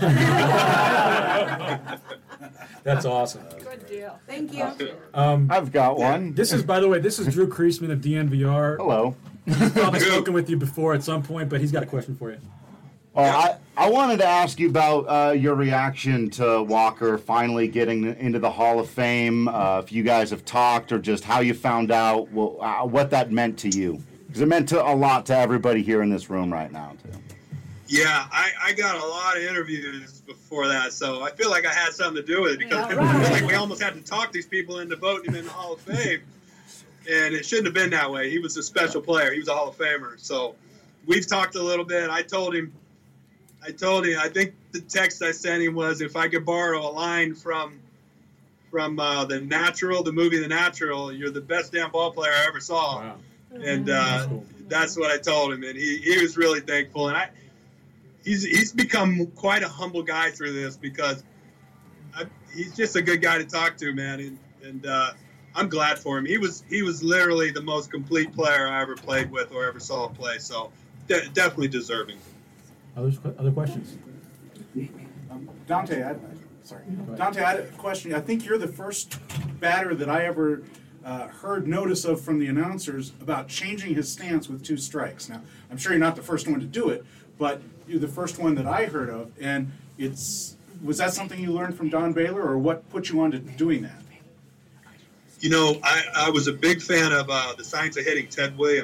That's awesome. Good deal. Thank you. I've got one. This is, by the way, Drew Kreisman of DNVR. Hello. He's probably spoken with you before at some point, but he's got a question for you. I wanted to ask you about your reaction to Walker finally getting into the Hall of Fame, if you guys have talked or just how you found out what that meant to you. Because it meant a lot to everybody here in this room right now, too. Yeah, I got a lot of interviews before that, so I feel like I had something to do with it because I feel like we almost had to talk these people into voting him in the Hall of Fame. And it shouldn't have been that way. He was a special player. He was a Hall of Famer. So we've talked a little bit. I told him, I think the text I sent him was if I could borrow a line from The Natural, the movie The Natural, you're the best damn ball player I ever saw. Wow. And that's what I told him. And he was really thankful. And he's become quite a humble guy through this because he's just a good guy to talk to, man. And I'm glad for him. He was literally the most complete player I ever played with or ever saw play. So definitely deserving. Other questions? Dante, I had a question. I think you're the first batter that I ever heard notice of from the announcers about changing his stance with 2 strikes. Now, I'm sure you're not the first one to do it, but you're the first one that I heard of. And was that something you learned from Don Baylor, or what put you on to doing that? You know, I was a big fan of The Science of Hitting, Ted Williams.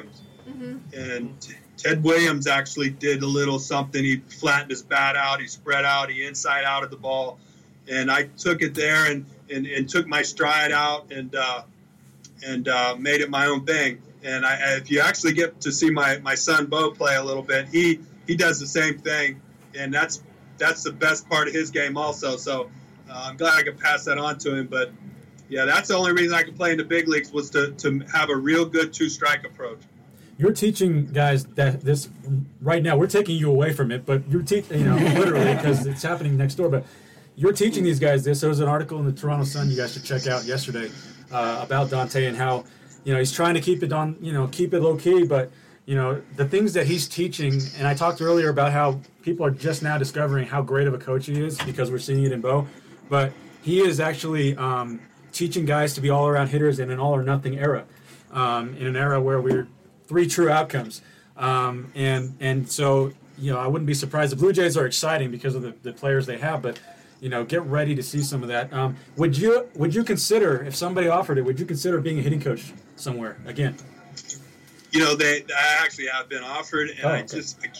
And Ted Williams actually did a little something. He flattened his bat out. He spread out. He inside out of the ball. And I took it there and took my stride out and made it my own thing. And if you actually get to see my son Bo play a little bit, he does the same thing. And that's the best part of his game also. So I'm glad I could pass that on to him. But, yeah, that's the only reason I could play in the big leagues was to have a real good two-strike approach. You're teaching guys that this right now. We're taking you away from it, but you're teaching, literally, because it's happening next door. But you're teaching these guys this. There was an article in the Toronto Sun you guys should check out yesterday about Dante and how, he's trying to keep it on, keep it low key, but the things that he's teaching. And I talked earlier about how people are just now discovering how great of a coach he is because we're seeing it in Bo. But he is actually teaching guys to be all-around hitters in an all-or-nothing era, in an era where we're 3 true outcomes. And so, I wouldn't be surprised. The Blue Jays are exciting because of the players they have, but, get ready to see some of that. Would you consider, if somebody offered it, would you consider being a hitting coach somewhere again? I actually have been offered, and I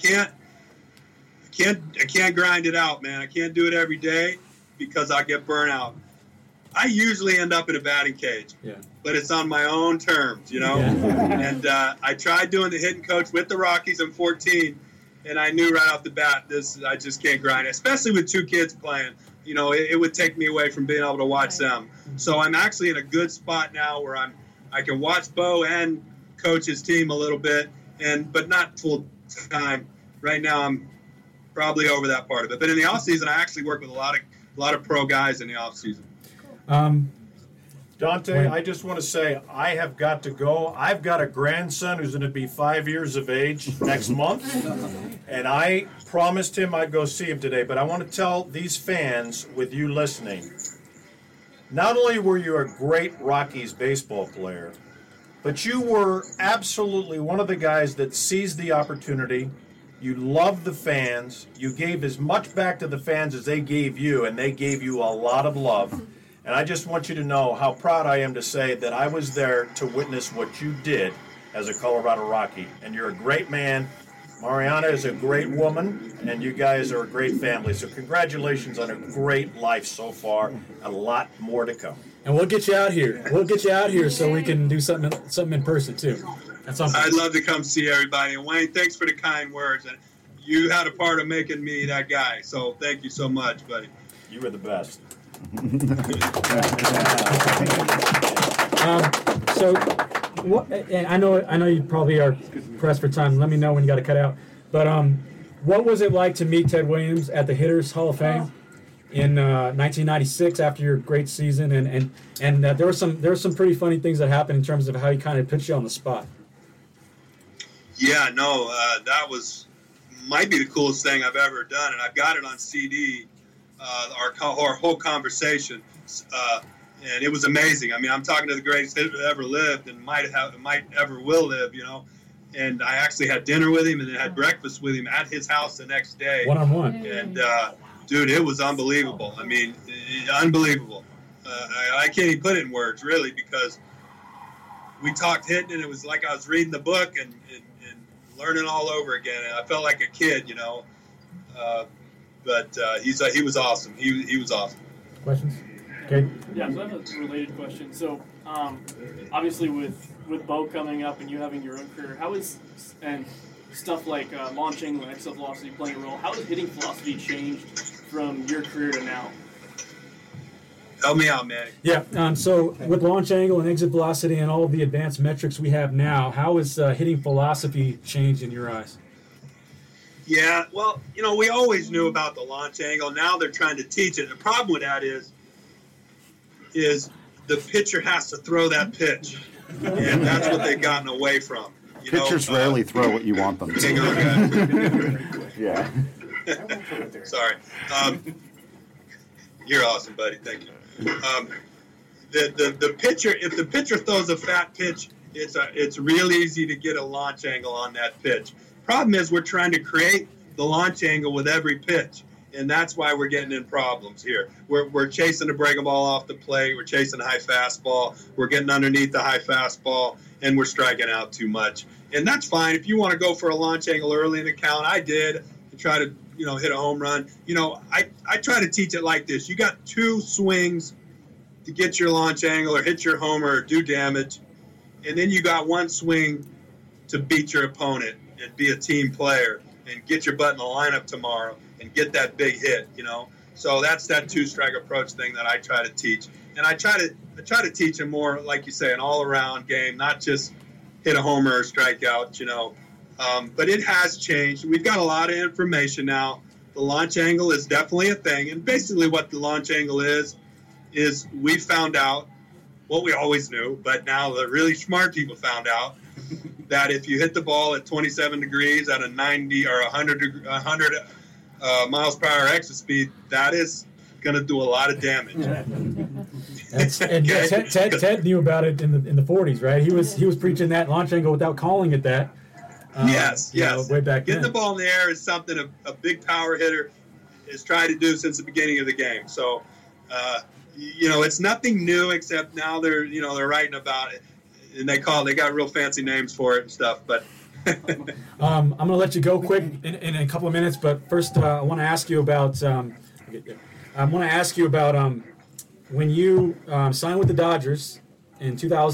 can't grind it out, man. I can't do it every day because I get burnt out. I usually end up in a batting cage, but it's on my own terms, And I tried doing the hitting coach with the Rockies in 14, and I knew right off the bat, I just can't grind it, especially with 2 kids playing. It would take me away from being able to watch them. So I'm actually in a good spot now where I can watch Bo and coach his team a little bit, but not full time. Right now, I'm probably over that part of it. But in the off season, I actually work with a lot of pro guys in the off season. Dante, I just want to say I have got to go. I've got a grandson who's going to be 5 years of age next month, and I promised him I'd go see him today. But I want to tell these fans with you listening, not only were you a great Rockies baseball player, but you were absolutely one of the guys that seized the opportunity. You loved the fans. You gave as much back to the fans as they gave you, and they gave you a lot of love. And I just want you to know how proud I am to say that I was there to witness what you did as a Colorado Rocky. And you're a great man. Mariana is a great woman, and you guys are a great family. So congratulations on a great life so far. A lot more to come. And we'll get you out here. So we can do something in person too. I'd love to come see everybody. And Wayne, thanks for the kind words. And you had a part of making me that guy. So thank you so much, buddy. You were the best. And I know you probably are pressed for time. Let me know when you got to cut out. But what was it like to meet Ted Williams at the Hitters Hall of Fame in 1996 after your great season? And there were some pretty funny things that happened in terms of how he kind of put you on the spot. Yeah, no, that might be the coolest thing I've ever done, and I've got it on CD. Our whole conversation, and it was amazing. I mean, I'm talking to the greatest hitter that ever lived and might ever will live, And I actually had dinner with him and then had breakfast with him at his house the next day. One-on-one. And, dude, it was unbelievable. I mean, unbelievable. I can't even put it in words, really, because we talked hitting, and it was like I was reading the book and learning all over again. And I felt like a kid, But he was awesome. He was awesome. Questions? Okay. Yeah, so I have a related question. So, obviously with Bo coming up and you having your own career, and stuff like launch angle and exit velocity playing a role, how has hitting philosophy changed from your career to now? Help me out, man. Yeah, so with launch angle and exit velocity and all of the advanced metrics we have now, how has hitting philosophy changed in your eyes? Yeah, well, we always knew about the launch angle. Now they're trying to teach it. The problem with that is the pitcher has to throw that pitch, and that's what they've gotten away from. Pitchers rarely throw what you want them to. Hang on, guys. Yeah. Sorry. You're awesome, buddy. Thank you. The pitcher, if the pitcher throws a fat pitch, it's real easy to get a launch angle on that pitch. Problem is we're trying to create the launch angle with every pitch, And that's why we're getting in problems here. We're chasing the breaking ball off the plate. We're chasing the high fastball. We're getting underneath the high fastball, and we're striking out too much. And that's fine. If you want to go for a launch angle early in the count, I did, and try to, hit a home run. I try to teach it like this. You got 2 swings to get your launch angle or hit your homer or do damage, and then you got 1 swing to beat your opponent and be a team player and get your butt in the lineup tomorrow and get that big hit, So that's that 2-strike approach thing that I try to teach. And I try to teach them more, like you say, an all-around game, not just hit a homer or strike out, But it has changed. We've got a lot of information now. The launch angle is definitely a thing. And basically what the launch angle is we found out what we always knew, but now the really smart people found out that if you hit the ball at 27 degrees at a 90 or 100 miles per hour exit speed, that is going to do a lot of damage. Ted knew about it in the 40s, right? He was preaching that launch angle without calling it that. Yes. Way back Getting then. the ball in the air is something a big power hitter has tried to do since the beginning of the game. So, it's nothing new except now they're writing about it, and they got real fancy names for it and stuff. But I'm going to let you go quick in a couple of minutes, but first I want to ask you about when you signed with the Dodgers in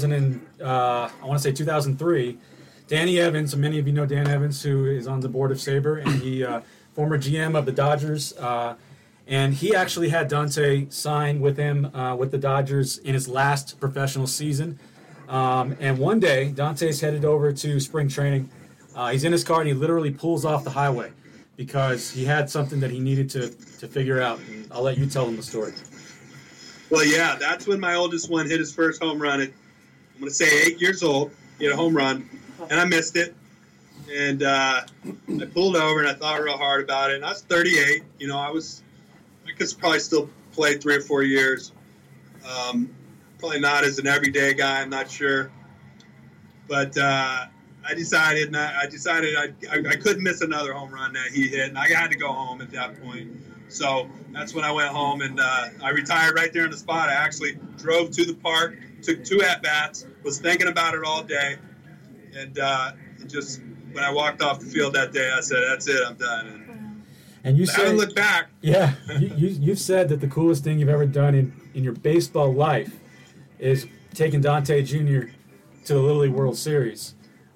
2003. Danny Evans, many of you know Dan Evans, who is on the board of SABR, and he former GM of the Dodgers, and he actually had Dante sign with him with the Dodgers in his last professional season. And one day, Dante's headed over to spring training. He's in his car, and he literally pulls off the highway because he had something that he needed to figure out. And I'll let you tell him the story. Well, yeah, that's when my oldest one hit his first home run at, I'm going to say 8 years old. He had a home run, and I missed it. And I pulled over, and I thought real hard about it. And I was 38. I could probably still play 3 or 4 years. Probably not as an everyday guy, I'm not sure. But I decided I couldn't miss another home run that he hit, and I had to go home at that point. So that's when I went home, and I retired right there on the spot. I actually drove to the park, took 2 at-bats, was thinking about it all day, and just when I walked off the field that day, I said, that's it, I'm done. And you I haven't looked back. Yeah, you've said that the coolest thing you've ever done in your baseball life is taking Dante Jr. to the Little League World Series.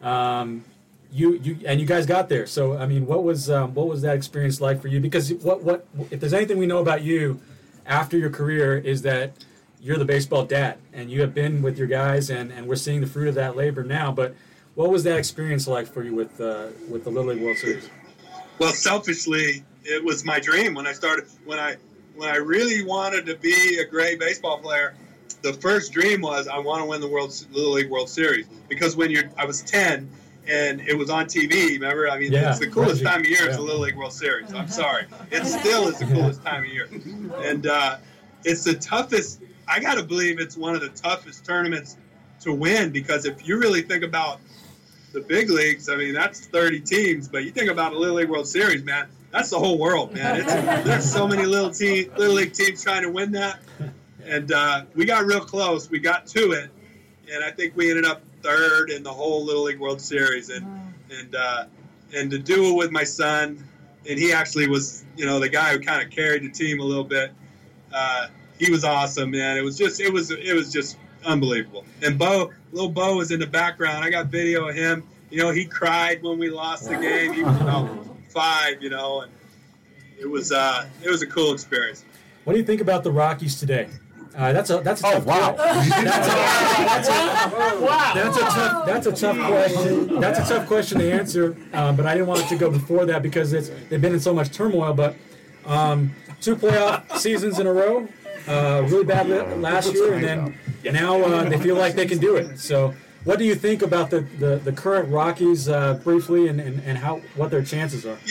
You guys got there. So I mean, what was that experience like for you? Because what if there's anything we know about you after your career is that you're the baseball dad, and you have been with your guys, and we're seeing the fruit of that labor now. But what was that experience like for you with the Little League World Series? Well, selfishly, it was my dream when I started. When I really wanted to be a great baseball player, the first dream was I want to win the Little League World Series. Because I was 10 and it was on TV. Remember? I mean, it's the coolest time of year. It's the Little League World Series. I'm sorry, it still is the coolest time of year, and it's the toughest. I got to believe it's one of the toughest tournaments to win, because if you really think about the big leagues, I mean, that's 30 teams, but you think about the Little League World Series, man, that's the whole world, man. There's so many Little League teams trying to win that, and we got real close. We got to it, and I think we ended up third in the whole Little League World Series, and to do it with my son, and he actually was, the guy who kind of carried the team a little bit. He was awesome, man. It was just unbelievable. And little Bo was in the background. I got video of him. He cried when we lost the game. He was about 5, and it was a cool experience. What do you think about the Rockies today? That's a tough wow. That's a tough question. That's a tough question to answer. But I didn't want it to go before that because they've been in so much turmoil. But 2 playoff seasons in a row, really bad last year, and then now they feel like they can do it. So, what do you think about the current Rockies briefly, and what their chances are?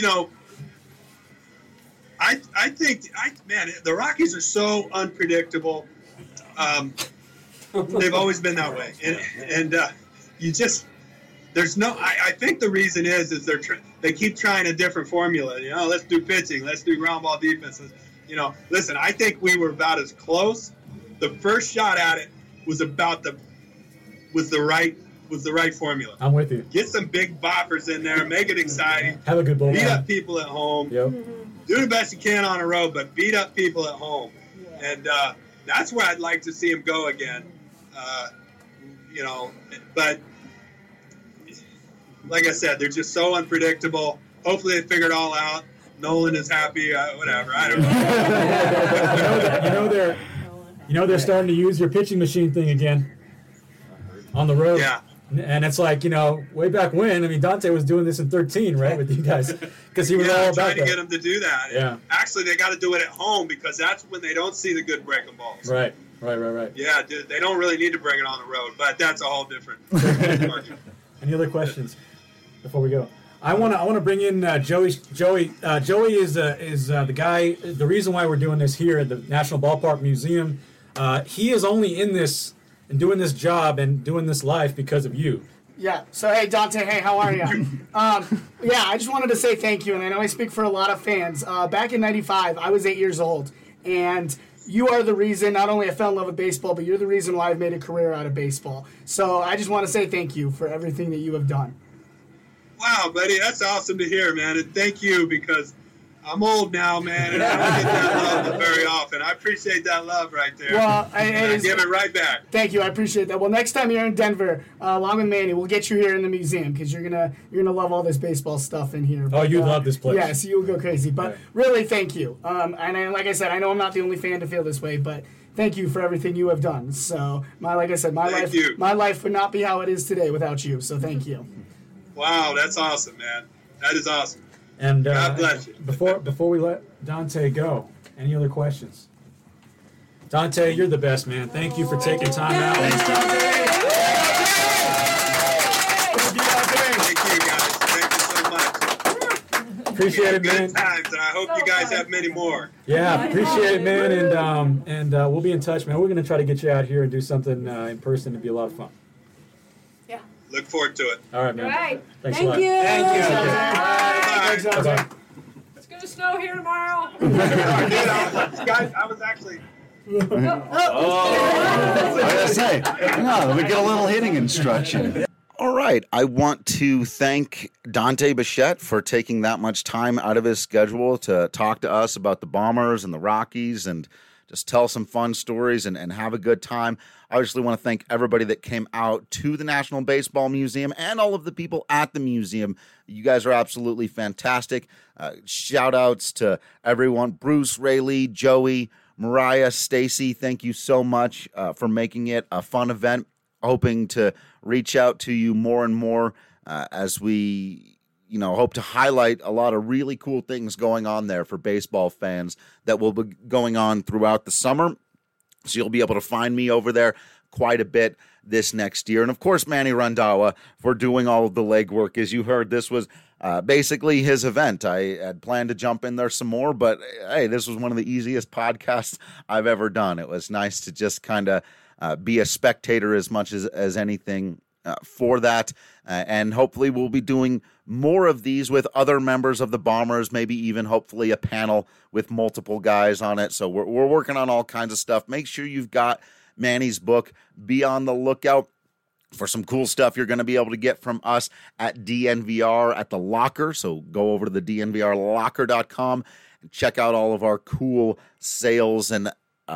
I think the Rockies are so unpredictable. They've always been that way, and there's no. I think the reason is they keep trying a different formula. You know, let's do pitching, let's do ground ball defense. You know, listen, I think we were about as close. The first shot at it was about the right formula. I'm with you. Get some big boppers in there, make it exciting. Have a good ball. Beat up people at home. Yep. Do the best you can on the road, but beat up people at home. And that's where I'd like to see him go again. You know, but like I said, they're just so unpredictable. Hopefully they figure it all out. Nolan is happy. Whatever. I don't know. They're starting to use your pitching machine thing again on the road. Yeah. And it's like, way back when, I mean, Dante was doing this in 13, right, with you guys, because he was all about trying to that. get them to do that. Yeah. Actually, they got to do it at home because that's when they don't see the good breaking balls. Right. Yeah, they don't really need to bring it on the road, but that's a whole different argument. Any other questions before we go? I want to bring in Joey. Joey is the guy. The reason why we're doing this here at the National Ballpark Museum, he is only in this and doing this job and doing this life because of you. Yeah. So, hey, Dante, hey, how are you? Yeah, I just wanted to say thank you, and I know I speak for a lot of fans. Back in '95, I was 8 years old, and you are the reason not only I fell in love with baseball, but you're the reason why I've made a career out of baseball. So I just want to say thank you for everything that you have done. Wow, buddy, that's awesome to hear, man, and thank you because I'm old now, man, and I don't get that love very often. I appreciate that love right there. Well, I give it right back. Thank you, I appreciate that. Well, next time you're in Denver, along with Manny, we'll get you here in the museum because you're gonna love all this baseball stuff in here. But, you love this place. Yeah, so you'll go crazy. But really, thank you. And like I said, I know I'm not the only fan to feel this way, but thank you for everything you have done. So, my life would not be how it is today without you. So, thank you. Wow, that's awesome, man. That is awesome. And God bless you. Before we let Dante go, any other questions? Dante, you're the best, man. Thank you for taking time out. Thanks, Dante. Thank you, guys. Thank you so much. Appreciate it, man. Good times, and I hope you guys have many more. Yeah, appreciate it, man. And we'll be in touch, man. We're gonna try to get you out here and do something in person. It'd be a lot of fun. Look forward to it. All right, man. All right. Thanks Thank a lot. you. Thank you. Bye. Bye-bye. It's going to snow here tomorrow. Guys, I was actually... I gotta say, let me get a little hitting instruction. All right. I want to thank Dante Bichette for taking that much time out of his schedule to talk to us about the Bombers and the Rockies and just tell some fun stories and have a good time. I obviously want to thank everybody that came out to the National Baseball Museum and all of the people at the museum. You guys are absolutely fantastic. Shout outs to everyone. Bruce, Rayleigh, Joey, Mariah, Stacy, thank you so much for making it a fun event. Hoping to reach out to you more and more as we hope to highlight a lot of really cool things going on there for baseball fans that will be going on throughout the summer. So you'll be able to find me over there quite a bit this next year. And of course, Manny Randhawa for doing all of the legwork. As you heard, this was basically his event. I had planned to jump in there some more, but hey, this was one of the easiest podcasts I've ever done. It was nice to just kind of be a spectator as much as anything for that. And hopefully we'll be doing more of these with other members of the Bombers, maybe even hopefully a panel with multiple guys on it. So we're working on all kinds of stuff. Make sure you've got Manny's book. Be on the lookout for some cool stuff you're going to be able to get from us at DNVR at the Locker. So go over to the DNVRlocker.com and check out all of our cool sales and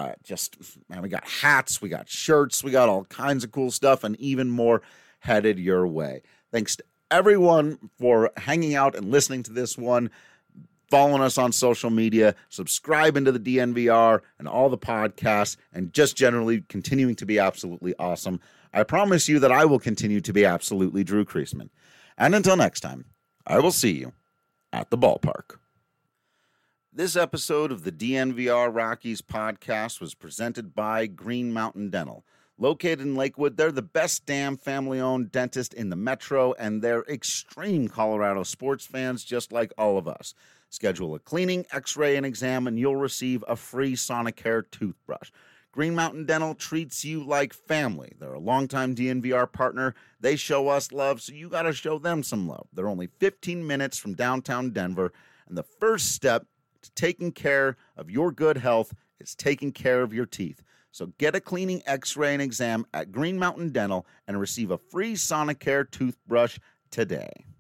we got hats, we got shirts, we got all kinds of cool stuff and even more headed your way. Thanks to everyone for hanging out and listening to this one, following us on social media, subscribing to the DNVR and all the podcasts, and just generally continuing to be absolutely awesome. I promise you that I will continue to be absolutely Drew Creasman. And until next time, I will see you at the ballpark. This episode of the DNVR Rockies podcast was presented by Green Mountain Dental. Located in Lakewood, they're the best damn family-owned dentist in the metro, and they're extreme Colorado sports fans just like all of us. Schedule a cleaning, x-ray, and exam, and you'll receive a free Sonicare toothbrush. Green Mountain Dental treats you like family. They're a longtime DNVR partner. They show us love, so you got to show them some love. They're only 15 minutes from downtown Denver, and the first step to taking care of your good health is taking care of your teeth. So get a cleaning, x-ray, and exam at Green Mountain Dental and receive a free Sonicare toothbrush today.